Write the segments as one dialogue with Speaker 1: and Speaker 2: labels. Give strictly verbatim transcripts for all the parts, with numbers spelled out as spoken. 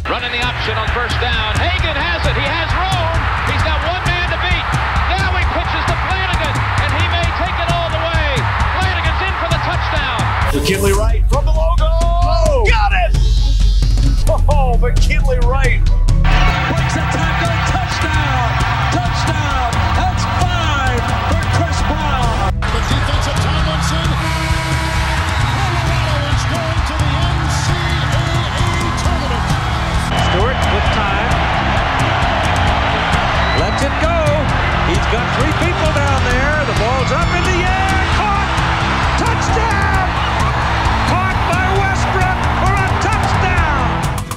Speaker 1: Running the option on first down. Hagan has it. He has room. He's got one man to beat. Now he pitches to Flanagan, and he may take it all the way. Flanagan's in for the touchdown.
Speaker 2: McKinley Wright from the logo. Oh, got it! Oh, McKinley Wright.
Speaker 3: Breaks a tackle. Touchdown. Touchdown. That's five for Chris Brown.
Speaker 4: The defense of Tomlinson. Colorado is going to the N C double A tournament.
Speaker 3: Stewart with time. Lets it go. He's got three people down there. The ball's up in the air. Caught. Touchdown. Caught by Westbrook for a touchdown.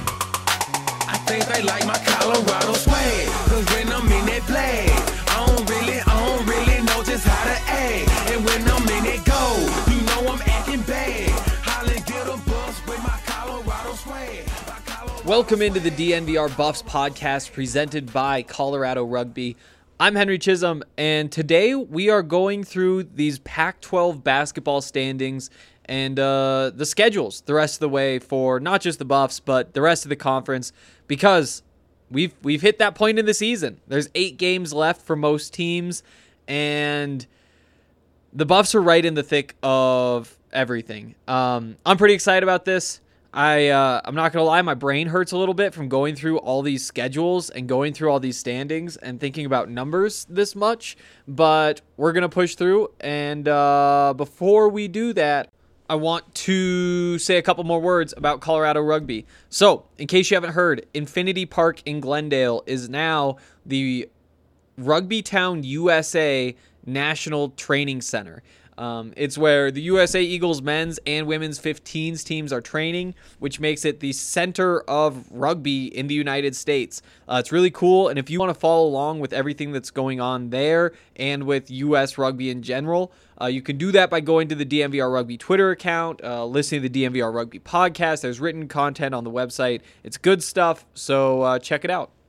Speaker 5: I think they like my Colorado swag. Cause when I'm in that play, I don't really, I don't really know just how to act. And when I'm in it go, you know I'm acting bad. Holly get a bus with my Colorado swag. My Colorado
Speaker 6: Welcome into the D N V R Buffs podcast presented by Colorado Rugby. I'm Henry Chisholm, and today we are going through these Pac twelve basketball standings and uh, the schedules the rest of the way for not just the Buffs, but the rest of the conference, because we've we've hit that point in the season. There's eight games left for most teams, and the Buffs are right in the thick of everything. Um, I'm pretty excited about this. I, uh, I'm not going to lie, my brain hurts a little bit from going through all these schedules and going through all these standings and thinking about numbers this much, but we're going to push through. And uh, before we do that, I want to say a couple more words about Colorado Rugby. So, in case you haven't heard, Infinity Park in Glendale is now the Rugby Town U S A National Training Center. Um, it's where the U S A Eagles men's and women's fifteens teams are training, which makes it the center of rugby in the United States. Uh, it's really cool, and if you want to follow along with everything that's going on there and with U S rugby in general, uh, you can do that by going to the D N V R Rugby Twitter account, uh, listening to the D N V R Rugby podcast. There's written content on the website. It's good stuff, so uh, check it out.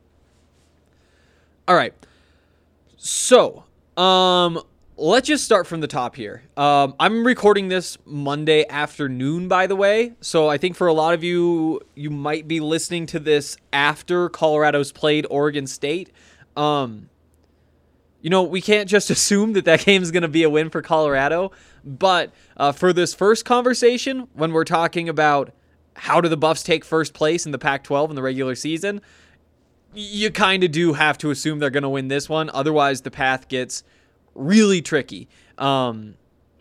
Speaker 6: All right. So, um... let's just start from the top here. Um, I'm recording this Monday afternoon, by the way. So I think for a lot of you, you might be listening to this after Colorado's played Oregon State. Um, you know, we can't just assume that that game is going to be a win for Colorado. But uh, for this first conversation, when we're talking about how do the Buffs take first place in the Pac twelve in the regular season, you kind of do have to assume they're going to win this one. Otherwise, the path gets really tricky. Um,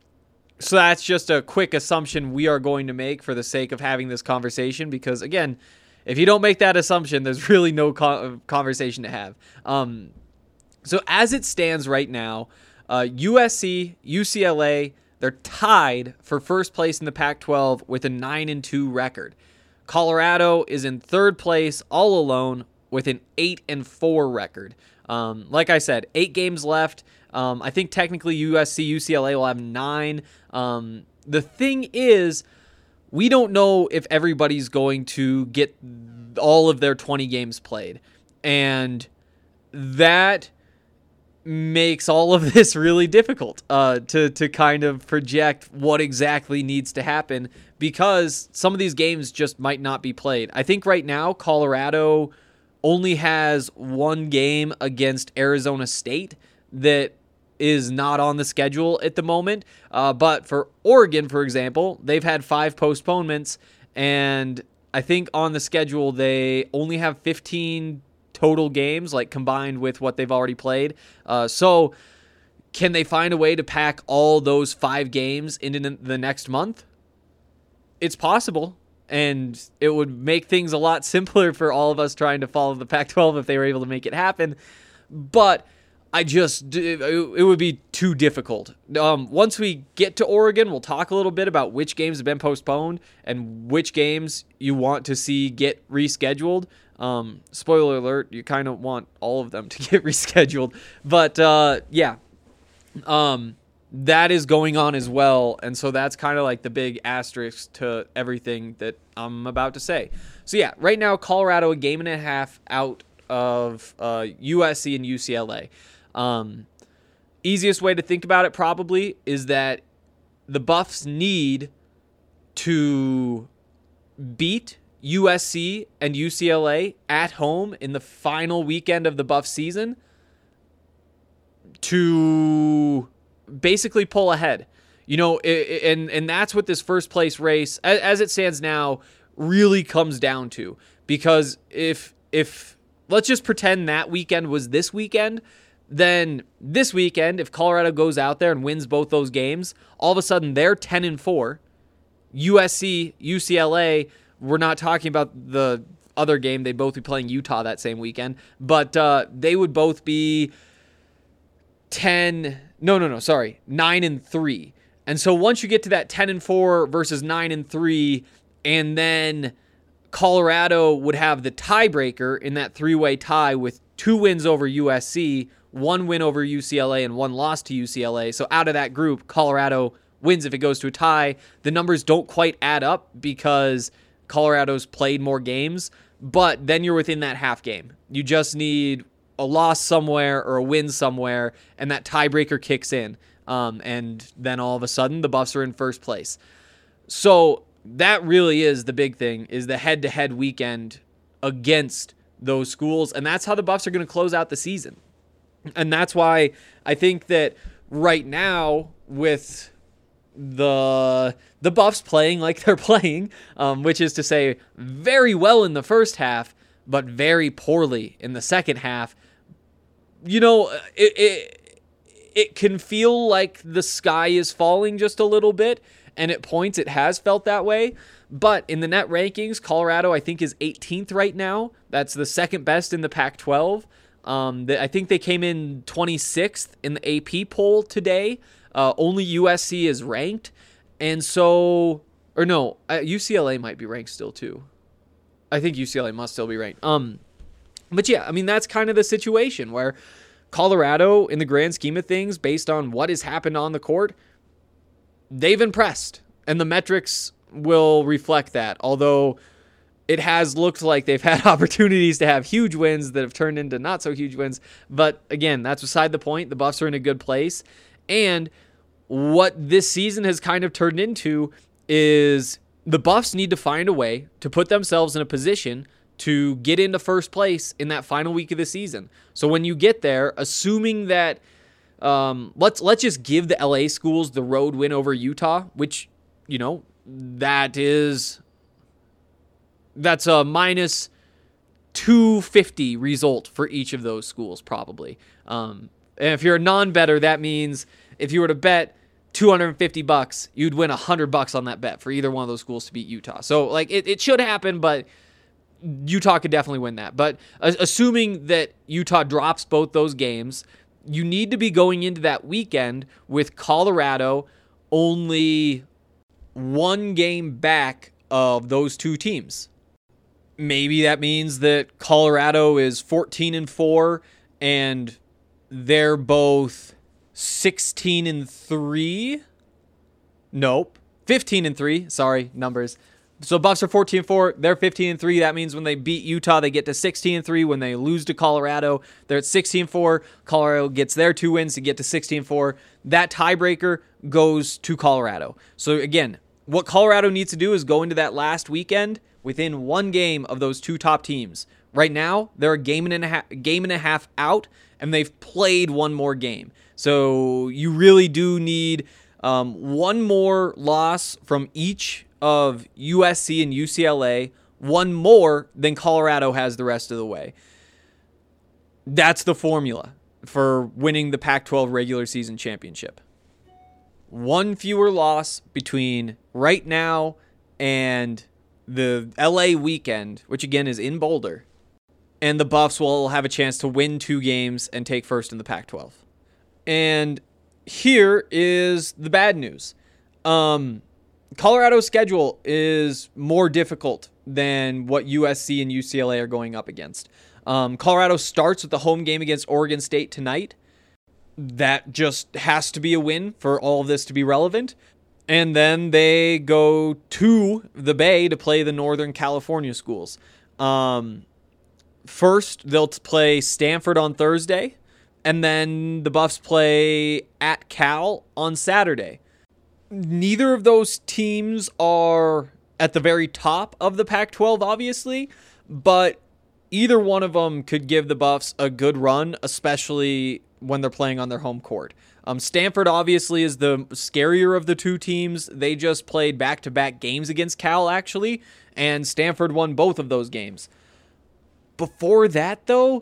Speaker 6: so that's just a quick assumption we are going to make for the sake of having this conversation, because again, if you don't make that assumption, there's really no co- conversation to have. Um, so as it stands right now, uh, U S C, U C L A, they're tied for first place in the Pac twelve with a nine and two record. Colorado is in third place all alone with an eight and four record. Um, like I said, eight games left. Um, I think technically U S C, U C L A will have nine. Um, the thing is, we don't know if everybody's going to get all of their twenty games played. And that makes all of this really difficult uh, to, to kind of project what exactly needs to happen, because some of these games just might not be played. I think right now, Colorado only has one game against Arizona State that is not on the schedule at the moment. Uh, but for Oregon, for example, they've had five postponements, and I think on the schedule they only have fifteen total games, like combined with what they've already played. Uh, so can they find a way to pack all those five games into the next month? It's possible. And it would make things a lot simpler for all of us trying to follow the Pac twelve if they were able to make it happen. But I just, it would be too difficult. Um, once we get to Oregon, we'll talk a little bit about which games have been postponed and which games you want to see get rescheduled. Um, spoiler alert, you kind of want all of them to get rescheduled. But uh, yeah, um, that is going on as well. And so that's kind of like the big asterisk to everything that I'm about to say. So yeah, right now, Colorado a game and a half out of uh, U S C and U C L A. Um, easiest way to think about it probably is that the Buffs need to beat U S C and U C L A at home in the final weekend of the Buff season to basically pull ahead. You know, and and that's what this first place race, as it stands now, really comes down to. Because if if let's just pretend that weekend was this weekend, then this weekend, if Colorado goes out there and wins both those games, all of a sudden they're ten and four. U S C, U C L A, we're not talking about the other game. They'd both be playing Utah that same weekend, but uh, they would both be ten. No, no, no. Sorry, nine and three. And so once you get to that ten and four versus nine and three, and then Colorado would have the tiebreaker in that three-way tie with two wins over U S C, one win over U C L A, and one loss to U C L A. So out of that group, Colorado wins if it goes to a tie. The numbers don't quite add up because Colorado's played more games, but then you're within that half game. You just need a loss somewhere or a win somewhere, and that tiebreaker kicks in. Um, and then all of a sudden, the Buffs are in first place. So that really is the big thing, is the head-to-head weekend against those schools, and that's how the Buffs are going to close out the season. And that's why I think that right now, with the the Buffs playing like they're playing, um, which is to say very well in the first half, but very poorly in the second half, you know, it, it it can feel like the sky is falling just a little bit, and at points it has felt that way. But in the net rankings, Colorado, I think, is eighteenth right now. That's the second best in the Pac twelve. Um, I think they came in twenty-sixth in the A P poll today. Uh, only U S C is ranked. And so, or no, uh, U C L A might be ranked still too. I think U C L A must still be ranked. Um, but yeah, I mean, that's kind of the situation where Colorado, in the grand scheme of things, based on what has happened on the court, they've impressed. And the metrics will reflect that. Although it has looked like they've had opportunities to have huge wins that have turned into not so huge wins. But again, that's beside the point. The Buffs are in a good place. And what this season has kind of turned into is the Buffs need to find a way to put themselves in a position to get into first place in that final week of the season. So when you get there, assuming that um, let's let's just give the L A schools the road win over Utah, which, you know, that is that's a minus two fifty result for each of those schools probably. Um, and if you're a non-better, that means if you were to bet two hundred fifty bucks, you'd win one hundred bucks on that bet for either one of those schools to beat Utah. So like it, it should happen, but Utah could definitely win that. But uh, assuming that Utah drops both those games, you need to be going into that weekend with Colorado only one game back of those two teams. Maybe that means that Colorado is fourteen and four and they're both sixteen and three. Nope. fifteen and three. Sorry, numbers. So Buffs are fourteen and four, they're fifteen and three. That means when they beat Utah, they get to sixteen and three. When they lose to Colorado, they're at sixteen and four. Colorado gets their two wins to get to sixteen and four. That tiebreaker goes to Colorado. So again, what Colorado needs to do is go into that last weekend within one game of those two top teams. Right now, they're a game and a half, game and a half out, and they've played one more game. So you really do need um, one more loss from each of U S C and U C L A, one more than Colorado has the rest of the way. That's the formula for winning the Pac twelve regular season championship. One fewer loss between right now and the L A weekend, which again is in Boulder, and the Buffs will have a chance to win two games and take first in the Pac twelve. And here is the bad news. Um, Colorado's schedule is more difficult than what U S C and U C L A are going up against. Um, Colorado starts with the home game against Oregon State tonight. That just has to be a win for all of this to be relevant. And then they go to the Bay to play the Northern California schools. Um, first, they'll play Stanford on Thursday, and then the Buffs play at Cal on Saturday. Neither of those teams are at the very top of the Pac twelve, obviously, but either one of them could give the Buffs a good run, especially when they're playing on their home court. Um, Stanford obviously is the scarier of the two teams. They just played back-to-back games against Cal, actually, and Stanford won both of those games. Before that, though,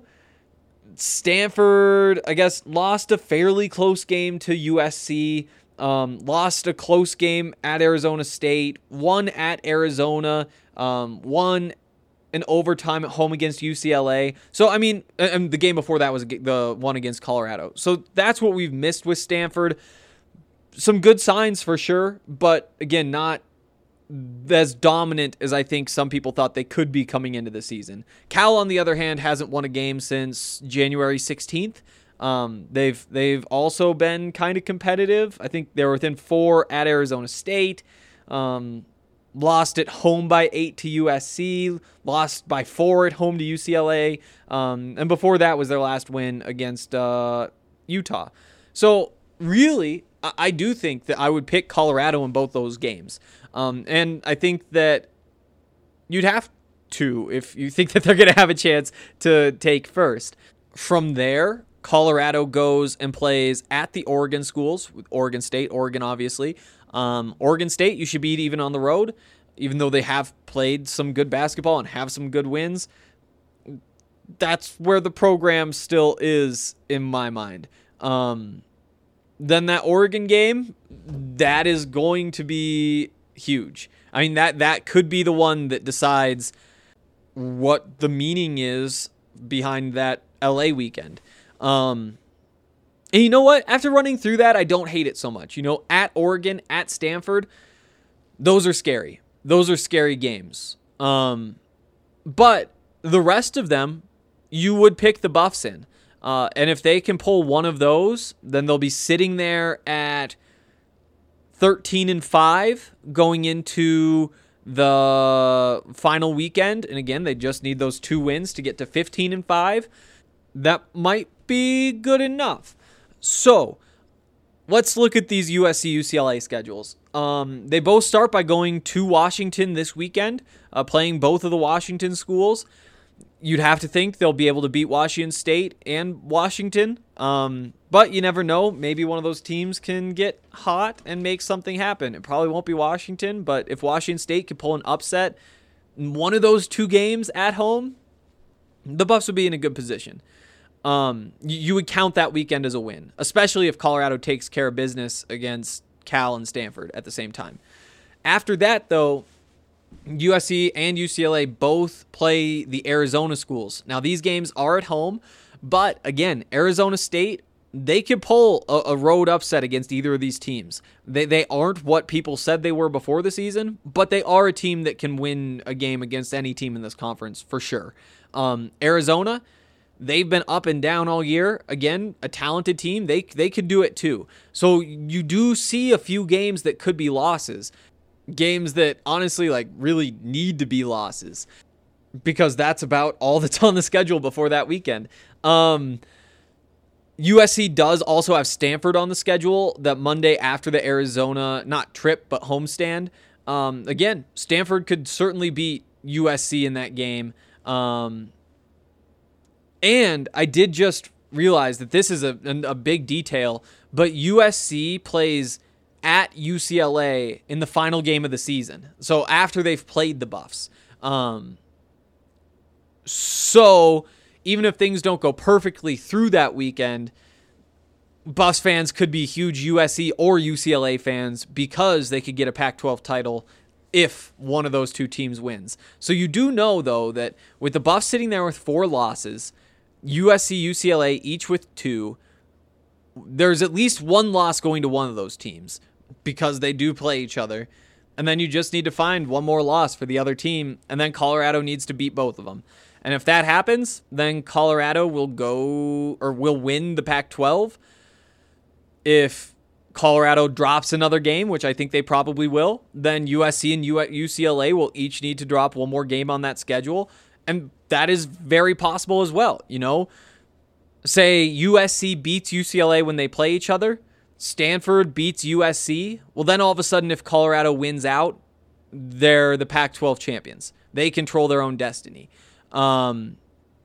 Speaker 6: Stanford, I guess, lost a fairly close game to U S C, um, lost a close game at Arizona State, won at Arizona, um, won an overtime at home against U C L A. So, I mean, and the game before that was the one against Colorado. So that's what we've missed with Stanford. Some good signs for sure, but again, not as dominant as I think some people thought they could be coming into the season. Cal, on the other hand, hasn't won a game since January sixteenth. Um, they've they've also been kind of competitive. I think they were within four at Arizona State. Um, lost at home by eight to U S C. Lost by four at home to U C L A. Um, and before that was their last win against uh, Utah. So really, I, I do think that I would pick Colorado in both those games. Um, and I think that you'd have to if you think that they're going to have a chance to take first. From there, Colorado goes and plays at the Oregon schools, with Oregon State, Oregon obviously. Um, Oregon State, you should beat even on the road, even though they have played some good basketball and have some good wins. That's where the program still is in my mind. Um, then that Oregon game, that is going to be huge. I mean, that that could be the one that decides what the meaning is behind that L A weekend. Um, and you know what? After running through that, I don't hate it so much. You know, at Oregon, at Stanford, those are scary. Those are scary games. Um, but the rest of them, you would pick the Buffs in. Uh, and if they can pull one of those, then they'll be sitting there at thirteen and five going into the final weekend. And again, they just need those two wins to get to fifteen and five. That might be good enough. So let's look at these U S C U C L A schedules. Um, they both start by going to Washington this weekend, uh, playing both of the Washington schools. You'd have to think they'll be able to beat Washington State and Washington. Um, but you never know. Maybe one of those teams can get hot and make something happen. It probably won't be Washington, but if Washington State could pull an upset in one of those two games at home, the Buffs would be in a good position. Um, you, you would count that weekend as a win, especially if Colorado takes care of business against Cal and Stanford at the same time. After that, though, U S C and U C L A both play the Arizona schools. Now, these games are at home, but again, Arizona State, they could pull a, a road upset against either of these teams. They they aren't what people said they were before the season, but they are a team that can win a game against any team in this conference for sure. Um, Arizona, they've been up and down all year. Again, a talented team. They they could do it too. So you do see a few games that could be losses. Games that honestly like really need to be losses, because that's about all that's on the schedule before that weekend. Um, U S C does also have Stanford on the schedule that Monday after the Arizona, not trip, but homestand. Um, again, Stanford could certainly beat U S C in that game. Um, and I did just realize that this is a, a big detail, but U S C plays at U C L A in the final game of the season. So after they've played the Buffs. Um, so even if things don't go perfectly through that weekend, Buffs fans could be huge U S C or U C L A fans because they could get a Pac twelve title if one of those two teams wins. So you do know, though, that with the Buffs sitting there with four losses, U S C, U C L A each with two, there's at least one loss going to one of those teams because they do play each other. And then you just need to find one more loss for the other team, and then Colorado needs to beat both of them. And if that happens, then Colorado will go or will win the Pac twelve. If Colorado drops another game, which I think they probably will, then U S C and U C L A will each need to drop one more game on that schedule. And that is very possible as well. You know, say U S C beats U C L A when they play each other, Stanford beats U S C. Well, then all of a sudden, if Colorado wins out, they're the Pac twelve champions. They control their own destiny. Um,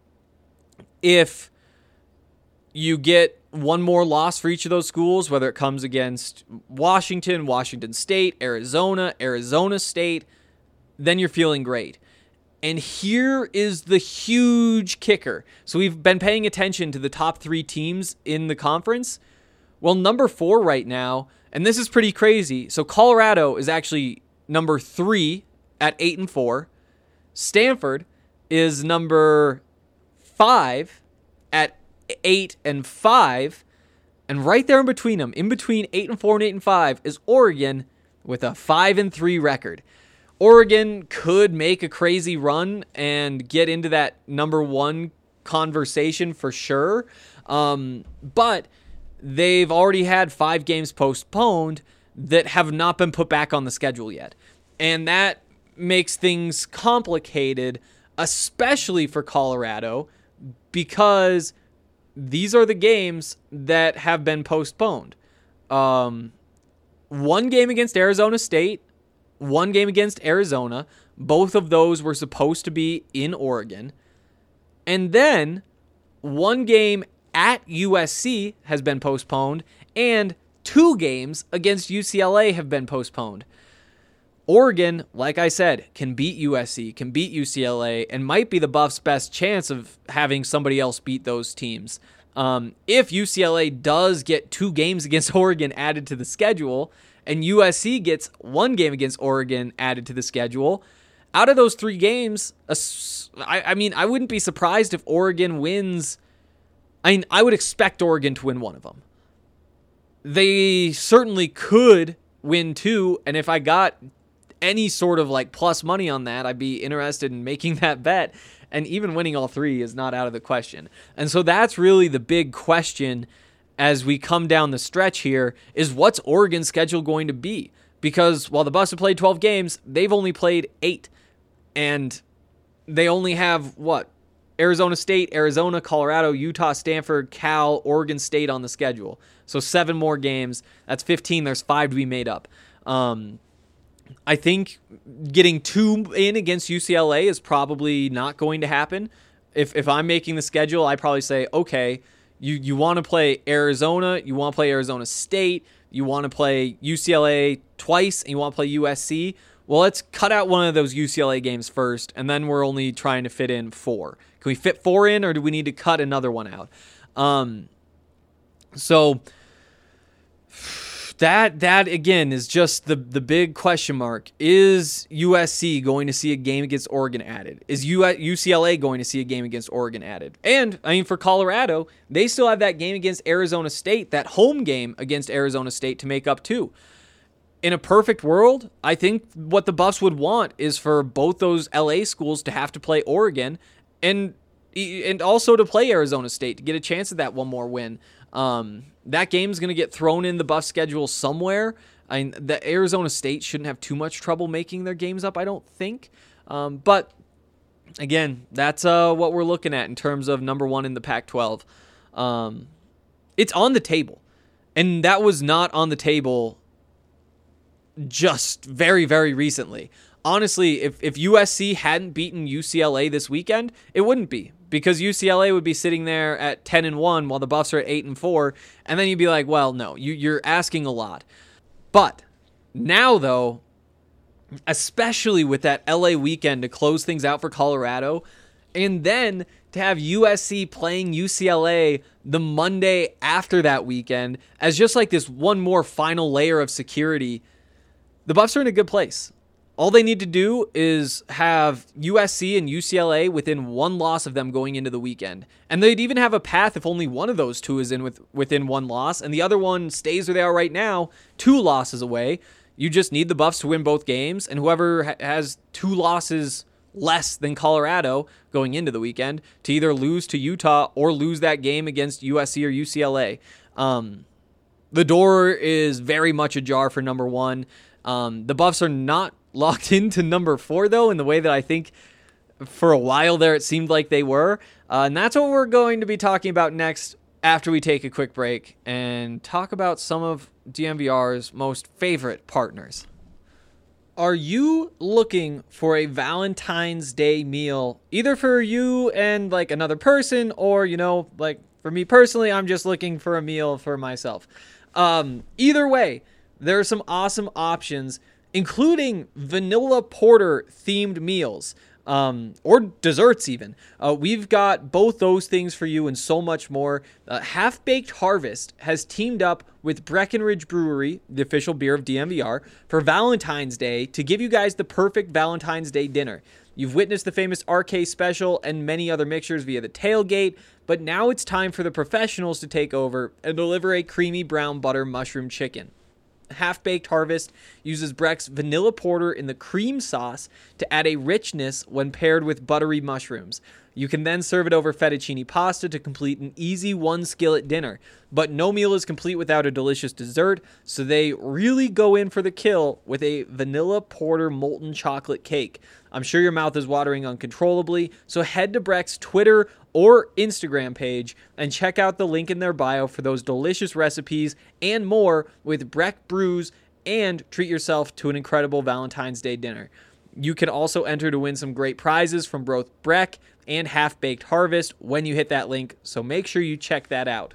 Speaker 6: if you get one more loss for each of those schools, whether it comes against Washington, Washington State, Arizona, Arizona State, then you're feeling great. And here is the huge kicker. So we've been paying attention to the top three teams in the conference. Well, number four right now, and this is pretty crazy. So Colorado is actually number three at eight and four. Stanford is number five at eight and five. And right there in between them, in between eight and four and eight and five, is Oregon with a five and three record. Oregon could make a crazy run and get into that number one conversation for sure. Um, but they've already had five games postponed that have not been put back on the schedule yet. And that makes things complicated, especially for Colorado, because these are the games that have been postponed. Um, one game against Arizona State, one game against Arizona. Both of those were supposed to be in Oregon. And then one game at U S C has been postponed, and two games against U C L A have been postponed. Oregon, like I said, can beat U S C, can beat U C L A, and might be the Buffs' best chance of having somebody else beat those teams. Um, if U C L A does get two games against Oregon added to the schedule, and U S C gets one game against Oregon added to the schedule, out of those three games, I, I mean, I wouldn't be surprised if Oregon wins. I mean, I would expect Oregon to win one of them. They certainly could win two, and if I got any sort of like plus money on that, I'd be interested in making that bet. And even winning all three is not out of the question. And so that's really the big question as we come down the stretch here, is what's Oregon's schedule going to be? Because while the Buffs have played twelve games, they've only played eight. And they only have, what, Arizona State, Arizona, Colorado, Utah, Stanford, Cal, Oregon State on the schedule. So seven more games. That's fifteen. There's five to be made up. Um, I think getting two in against U C L A is probably not going to happen. If if I'm making the schedule, I probably say, okay, you, you want to play Arizona, you want to play Arizona State, you want to play U C L A twice, and you want to play U S C. Well, let's cut out one of those U C L A games first, and then we're only trying to fit in four. Can we fit four in, or do we need to cut another one out? Um, so that that again is just the the big question mark. Is U S C going to see a game against Oregon added? Is U C L A going to see a game against Oregon added? And I mean, for Colorado, they still have that game against Arizona State, that home game against Arizona State to make up too. In a perfect world, I think what the Buffs would want is for both those L A schools to have to play Oregon and and also to play Arizona State to get a chance at that one more win. Um, that game's going to get thrown in the Buffs schedule somewhere. I mean, the Arizona State shouldn't have too much trouble making their games up, I don't think. Um, but again, that's uh, what we're looking at in terms of number one in the Pac twelve. Um, it's on the table, and that was not on the table just very, very recently. Honestly, if, if U S C hadn't beaten U C L A this weekend, it wouldn't be, because U C L A would be sitting there at ten and one while the Buffs are at eight and four, and then you'd be like, well, no, you, you're asking a lot. But now, though, especially with that L A weekend to close things out for Colorado, and then to have U S C playing U C L A the Monday after that weekend as just like this one more final layer of security, the Buffs are in a good place. All they need to do is have U S C and U C L A within one loss of them going into the weekend. And they'd even have a path if only one of those two is in with within one loss and the other one stays where they are right now, two losses away. You just need the Buffs to win both games, and whoever ha- has two losses less than Colorado going into the weekend to either lose to Utah or lose that game against U S C or U C L A. Um, the door is very much ajar for number one. Um, the Buffs are not locked into number four, though, in the way that I think for a while there it seemed like they were. Uh, and that's what we're going to be talking about next after we take a quick break and talk about some of D N V R's most favorite partners. Are you looking for a Valentine's Day meal, either for you and like another person, or, you know, like for me personally, I'm just looking for a meal for myself. Um, either way, there are some awesome options, including vanilla porter themed meals. Um, or desserts even. Uh, we've got both those things for you and so much more. Uh, Half Baked Harvest has teamed up with Breckenridge Brewery, the official beer of D M V R, for Valentine's Day to give you guys the perfect Valentine's Day dinner. You've witnessed the famous R K special and many other mixtures via the tailgate, but now it's time for the professionals to take over and deliver a creamy brown butter mushroom chicken. Half Baked Harvest uses Breck's vanilla porter in the cream sauce to add a richness when paired with buttery mushrooms. You can then serve it over fettuccine pasta to complete an easy one skillet dinner. But no meal is complete without a delicious dessert, so they really go in for the kill with a vanilla porter molten chocolate cake. I'm sure your mouth is watering uncontrollably, so head to Breck's Twitter or Instagram page and check out the link in their bio for those delicious recipes and more with Breck Brews, and treat yourself to an incredible Valentine's Day dinner. You can also enter to win some great prizes from both Breck and Half Baked Harvest when you hit that link, so make sure you check that out.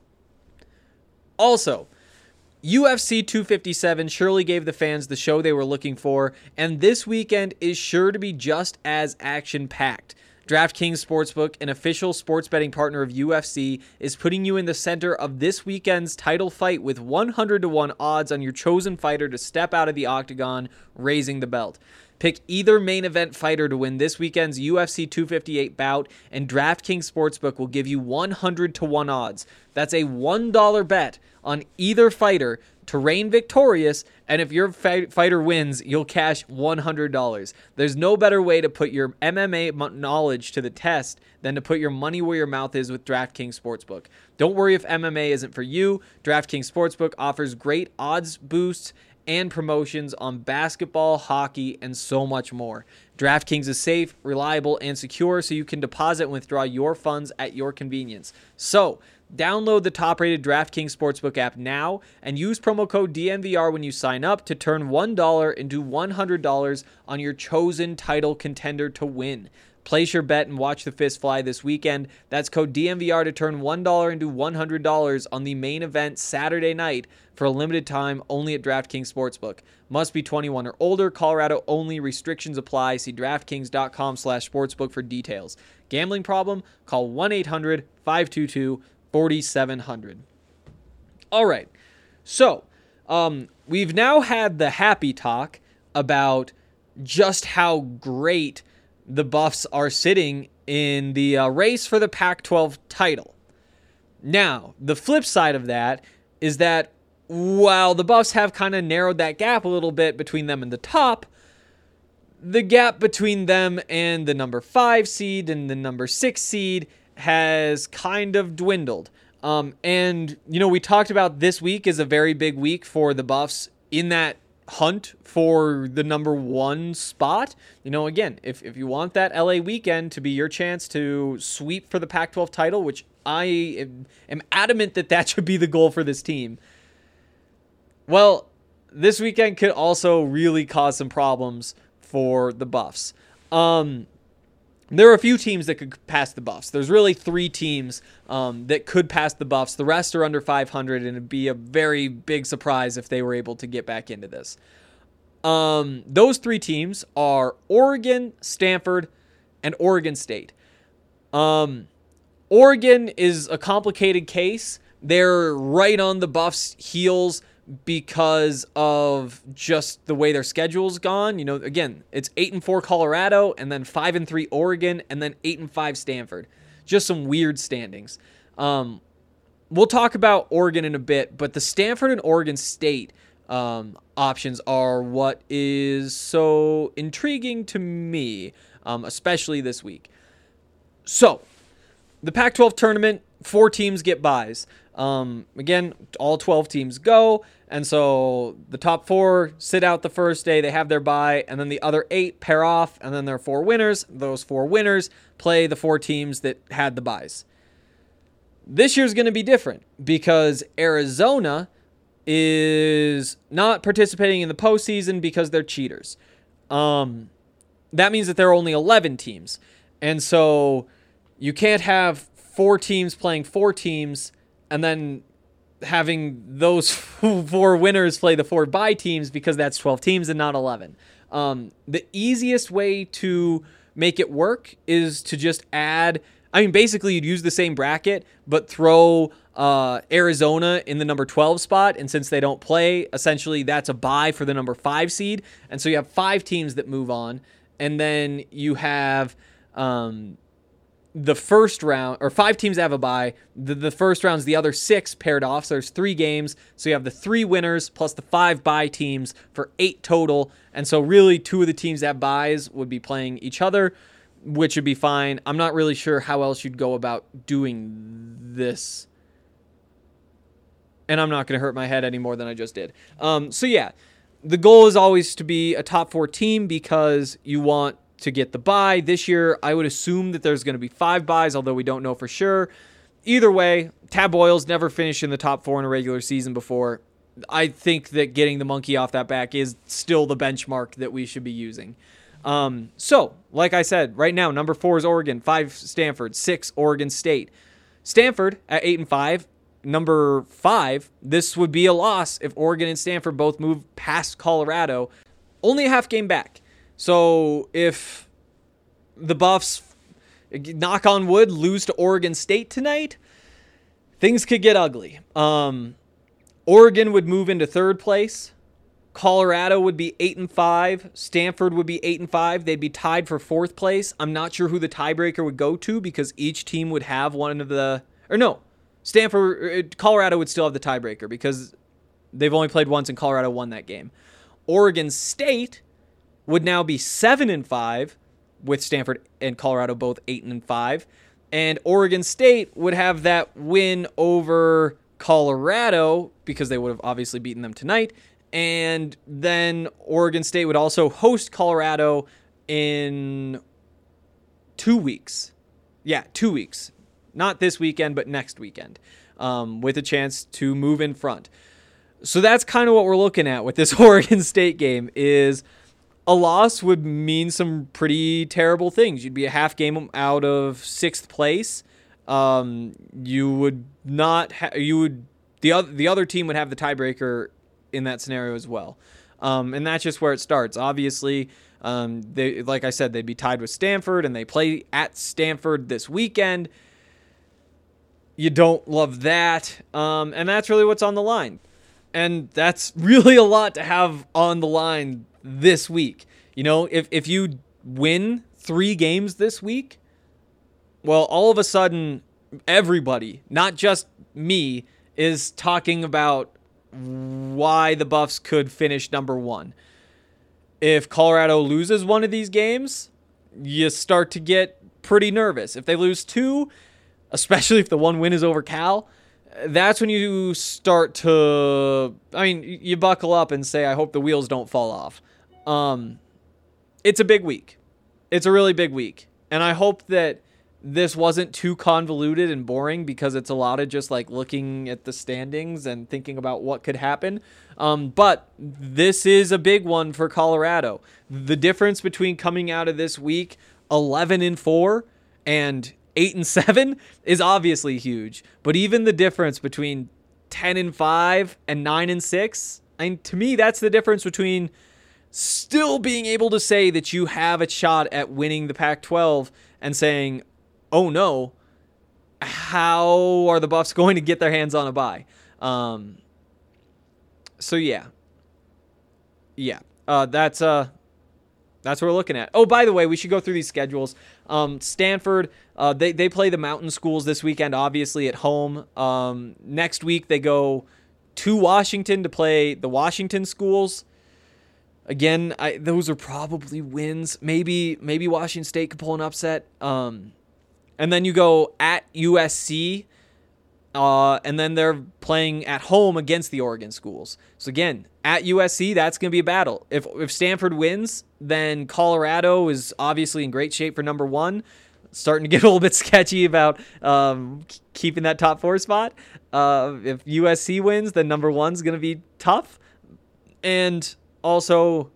Speaker 6: Also, U F C two fifty-seven surely gave the fans the show they were looking for, and this weekend is sure to be just as action-packed. DraftKings Sportsbook, an official sports betting partner of U F C, is putting you in the center of this weekend's title fight with one hundred to one odds on your chosen fighter to step out of the octagon, raising the belt. Pick either main event fighter to win this weekend's U F C two fifty-eight bout, and DraftKings Sportsbook will give you one hundred to one odds. That's a one dollar bet on either fighter to reign victorious, and if your fight, fighter wins, you'll cash one hundred dollars. There's no better way to put your M M A knowledge to the test than to put your money where your mouth is with DraftKings Sportsbook. Don't worry if M M A isn't for you. DraftKings Sportsbook offers great odds boosts and promotions on basketball, hockey, and so much more. DraftKings is safe, reliable, and secure, so you can deposit and withdraw your funds at your convenience. So, download the top-rated DraftKings Sportsbook app now and use promo code D N V R when you sign up to turn one dollar into one hundred dollars on your chosen title contender to win. Place your bet and watch the fist fly this weekend. That's code D N V R to turn one dollar into one hundred dollars on the main event Saturday night for a limited time only at DraftKings Sportsbook. Must be twenty-one or older. Colorado only. Restrictions apply. See DraftKings.com slash sportsbook for details. Gambling problem? Call one eight hundred five two two four seven zero zero. All right. So, um, we've now had the happy talk about just how great the Buffs are sitting in the uh, race for the Pac twelve title. Now, the flip side of that is that while the Buffs have kind of narrowed that gap a little bit between them and the top, the gap between them and the number five seed and the number six seed has kind of dwindled. Um, and, you know, we talked about this week is a very big week for the Buffs in that hunt for the number one spot. You know, again, if, if you want that L A weekend to be your chance to sweep for the Pac twelve title, which I am, am adamant that that should be the goal for this team, well, this weekend could also really cause some problems for the Buffs. Um, there are a few teams that could pass the Buffs. There's really three teams um, that could pass the Buffs. The rest are under five hundred, and it'd be a very big surprise if they were able to get back into this. Um, those three teams are Oregon, Stanford, and Oregon State. Um, Oregon is a complicated case. They're right on the Buffs' heels because of just the way their schedule's gone. You know, again, it's eight and four Colorado, and then five and three Oregon, and then eight and five Stanford. Just some weird standings. Um, we'll talk about Oregon in a bit, but the Stanford and Oregon State um, options are what is so intriguing to me, um, especially this week. So, the Pac twelve tournament, four teams get buys. Um, again, all twelve teams go, and so the top four sit out the first day, they have their bye, and then the other eight pair off, and then there are four winners. Those four winners play the four teams that had the buys. This year's going to be different because Arizona is not participating in the postseason because they're cheaters. Um, that means that there are only eleven teams. And so you can't have four teams playing four teams and then having those four winners play the four bye teams, because that's twelve teams and not eleven. Um, the easiest way to make it work is to just add, I mean, basically you'd use the same bracket, but throw uh, Arizona in the number twelve spot. And since they don't play, essentially that's a bye for the number five seed. And so you have five teams that move on. And then you have um, the first round, or five teams have a bye. The, the first round's the other six paired off. So there's three games. So you have the three winners plus the five bye teams for eight total. And so really two of the teams that have byes would be playing each other, which would be fine. I'm not really sure how else you'd go about doing this. And I'm not going to hurt my head any more than I just did. Um, so yeah, the goal is always to be a top four team because you want to get the bye. This year, I would assume that there's going to be five byes, although we don't know for sure. Either way, Tab Oils never finished in the top four in a regular season before. I think that getting the monkey off that back is still the benchmark that we should be using. Um, so, like I said, right now, number four is Oregon, five Stanford, six Oregon State. Stanford at eight and five. Number five, this would be a loss if Oregon and Stanford both move past Colorado. Only a half game back. So if the Buffs, knock on wood, lose to Oregon State tonight, things could get ugly. Um, Oregon would move into third place. Colorado would be eight and five. Stanford would be eight and five. They'd be tied for fourth place. I'm not sure who the tiebreaker would go to because each team would have one of the, or no, Stanford, Colorado would still have the tiebreaker because they've only played once and Colorado won that game. Oregon State would now be seven and five, with Stanford and Colorado both eight and five, and Oregon State would have that win over Colorado because they would have obviously beaten them tonight, and then Oregon State would also host Colorado in two weeks. Yeah, two weeks. Not this weekend, but next weekend, um, with a chance to move in front. So that's kind of what we're looking at with this Oregon State game. Is a loss would mean some pretty terrible things. You'd be a half game out of sixth place. Um, you would not. Ha- you would the other the other team would have the tiebreaker in that scenario as well, um, and that's just where it starts. Obviously, um, they like I said, they'd be tied with Stanford, and they play at Stanford this weekend. You don't love that. Um, and that's really what's on the line. And that's really a lot to have on the line this week. You know, if, if you win three games this week, well, all of a sudden, everybody, not just me, is talking about why the Buffs could finish number one. If Colorado loses one of these games, you start to get pretty nervous. If they lose two, especially if the one win is over Cal, that's when you start to, I mean, you buckle up and say, I hope the wheels don't fall off. Um, it's a big week. It's a really big week. And I hope that this wasn't too convoluted and boring because it's a lot of just like looking at the standings and thinking about what could happen. Um, but this is a big one for Colorado. The difference between coming out of this week eleven and four and eight and seven is obviously huge, but even the difference between ten and five and nine and six, I mean, to me, that's the difference between still being able to say that you have a shot at winning the Pac twelve and saying, oh no, how are the Buffs going to get their hands on a bye? Um, so yeah, yeah, uh, that's uh, that's what we're looking at. Oh, by the way, we should go through these schedules. Um, Stanford, uh, they, they play the mountain schools this weekend, obviously at home. Um, next week they go to Washington to play the Washington schools. Again, I, those are probably wins. Maybe, maybe Washington State could pull an upset. Um, and then you go at U S C, uh, and then they're playing at home against the Oregon schools. So again, at U S C, that's going to be a battle. If if Stanford wins, then Colorado is obviously in great shape for number one. starting to get a little bit sketchy about um, keeping that top four spot. Uh, if U S C wins, then number one's going to be tough. And also,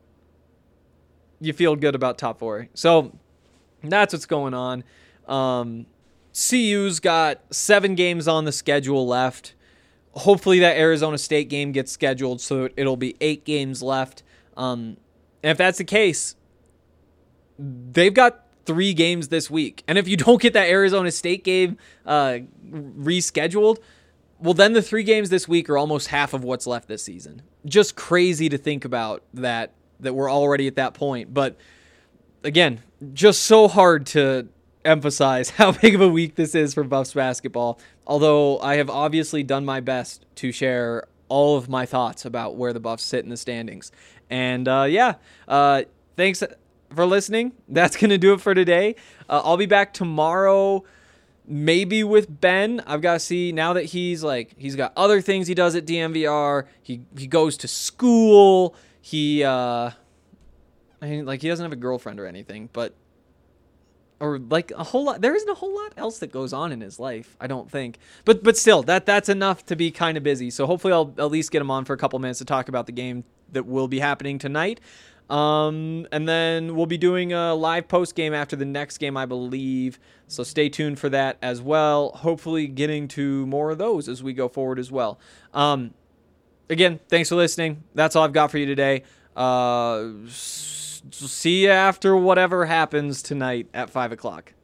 Speaker 6: you feel good about top four. So that's what's going on. Um, C U's got seven games on the schedule left. Hopefully that Arizona State game gets scheduled so it'll be eight games left. Um, and if that's the case, they've got three games this week. And if you don't get that Arizona State game uh, rescheduled, well, then the three games this week are almost half of what's left this season. Just crazy to think about that, that we're already at that point. But again, just so hard to emphasize how big of a week this is for Buffs basketball. Although I have obviously done my best to share all of my thoughts about where the Buffs sit in the standings. And uh, yeah, uh, thanks for listening. That's going to do it for today. Uh, I'll be back tomorrow, maybe with Ben. I've got to see now that he's like, he's got other things he does at D M V R. He, he goes to school. He, uh, I mean, like he doesn't have a girlfriend or anything, but or like a whole lot. There isn't a whole lot else that goes on in his life, I don't think. But but still, that that's enough to be kind of busy. So hopefully I'll at least get him on for a couple minutes to talk about the game that will be happening tonight. Um, and then we'll be doing a live post game after the next game, I believe. So stay tuned for that as well. Hopefully getting to more of those as we go forward as well. Um, again, thanks for listening. That's all I've got for you today. Uh, see you after whatever happens tonight at five o'clock.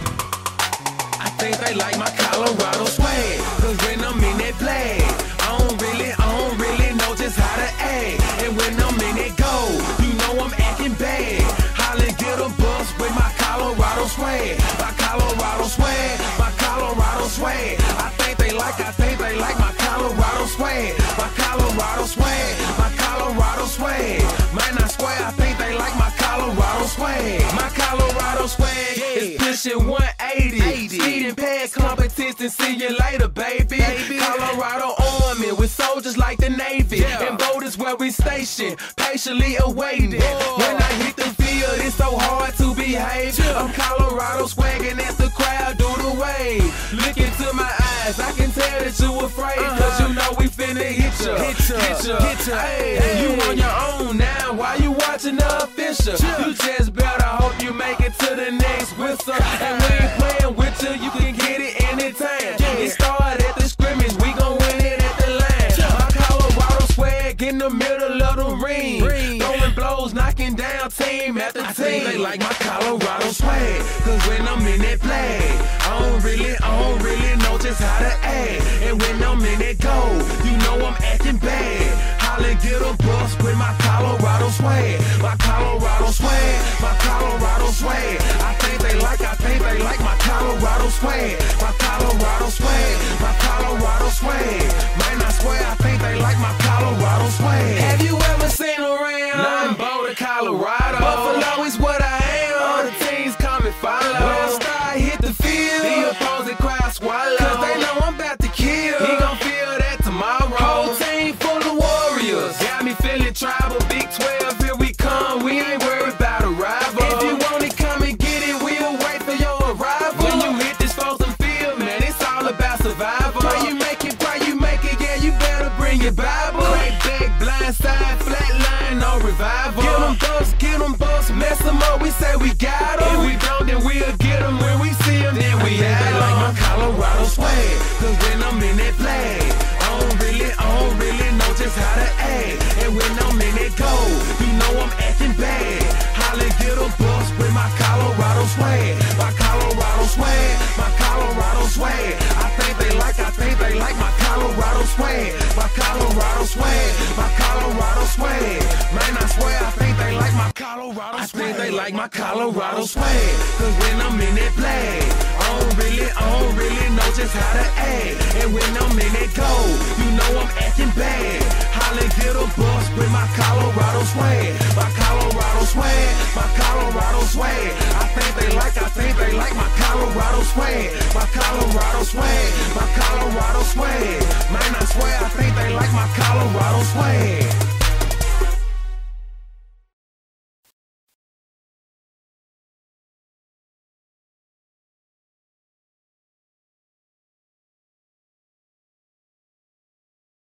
Speaker 5: I think they like my Colorado swag, cause when I'm in that play, I don't really, I don't really know just how to act. And when I'm in that go, you know I'm acting bad. Holla, get a bus with my Colorado swag, my Colorado swag, my Colorado swag. I think they like, I think they like my Colorado swag, my Colorado swag, my Colorado swag. Man, I swear, I think they like my Colorado swag, my Colorado swag is pushing one eighty. Speeding past competition, see you later, baby. baby. Colorado Army with soldiers like the Navy. Yeah. And boat is where we station, patiently awaiting. Whoa. When I hit the field, it's so hard to behave. Yeah. I'm Colorado swagging as the crowd do the wave. Look into my eyes, I can tell that you afraid. Uh-huh. Cause you know we finna hit ya, hit ya, hit ya. Hit ya. Hey, hey. You on your own now, why you watching the official? Yeah. You just better hope you make it to the next whistle. And we ain't playing with you, you can get it anytime. Yeah. It started at the scrimmage, we gon' win it at the line. Yeah. My Colorado swag in the middle of the ring, ring. Throwing blows, knocking down team after I team. Think they like my Colorado swag, cause when I'm in that play, I don't really, I don't really know just how to act. And when I'm in that go, you know I'm acting bad. Holla, get a bus with my Colorado swag, my Colorado swag, my Colorado swag. I think they like, I think they like my Colorado swag, my Colorado swag, my Colorado swag. Man, I swear, I think they like my Colorado swag. Have you ever seen around? Nothing but Colorado. Buffalo is what I am. All the teams come and follow. When I start hit the field, the opposing crowd swallow. Cause they know I'm about to kill. He gon' feel that tomorrow. Whole team full of warriors. Got me feeling tribal. Big twelve, here we come. We ain't worried about a rival. If you want it, come and get it. We'll wait for your arrival. When you hit this frozen field, man, it's all about survival. Pray you make it, pray you make it. Yeah, you better bring your Bible. Crack back, blind side, flat line, no revival. Get them buffs, get them buffs, mess them up. We say we got them. If we don't, then we'll get them. When we see them, then we have them. Like my Colorado swag, cause when I'm in that play, I don't really, I don't really know just how to act. And when I'm in that go, you know I'm acting bad. Holla, get a bus with my Colorado swag, my Colorado swag, my Colorado swag. I think they like, I think they like my Colorado swag, my Colorado swag, my Colorado swag. Man, I swear, I think they like my Colorado swag. I think they like my Colorado swag, cause when I'm in that play, I don't really, I don't really know just how to act. And when I'm in that go, you know I'm acting bad. Holla, get a bus with my Colorado swag, my Colorado swag, my Colorado swag. I think they like, I think they like my Colorado swag, my Colorado swag, my Colorado swag. Man, I swear, I think they like my Colorado swag.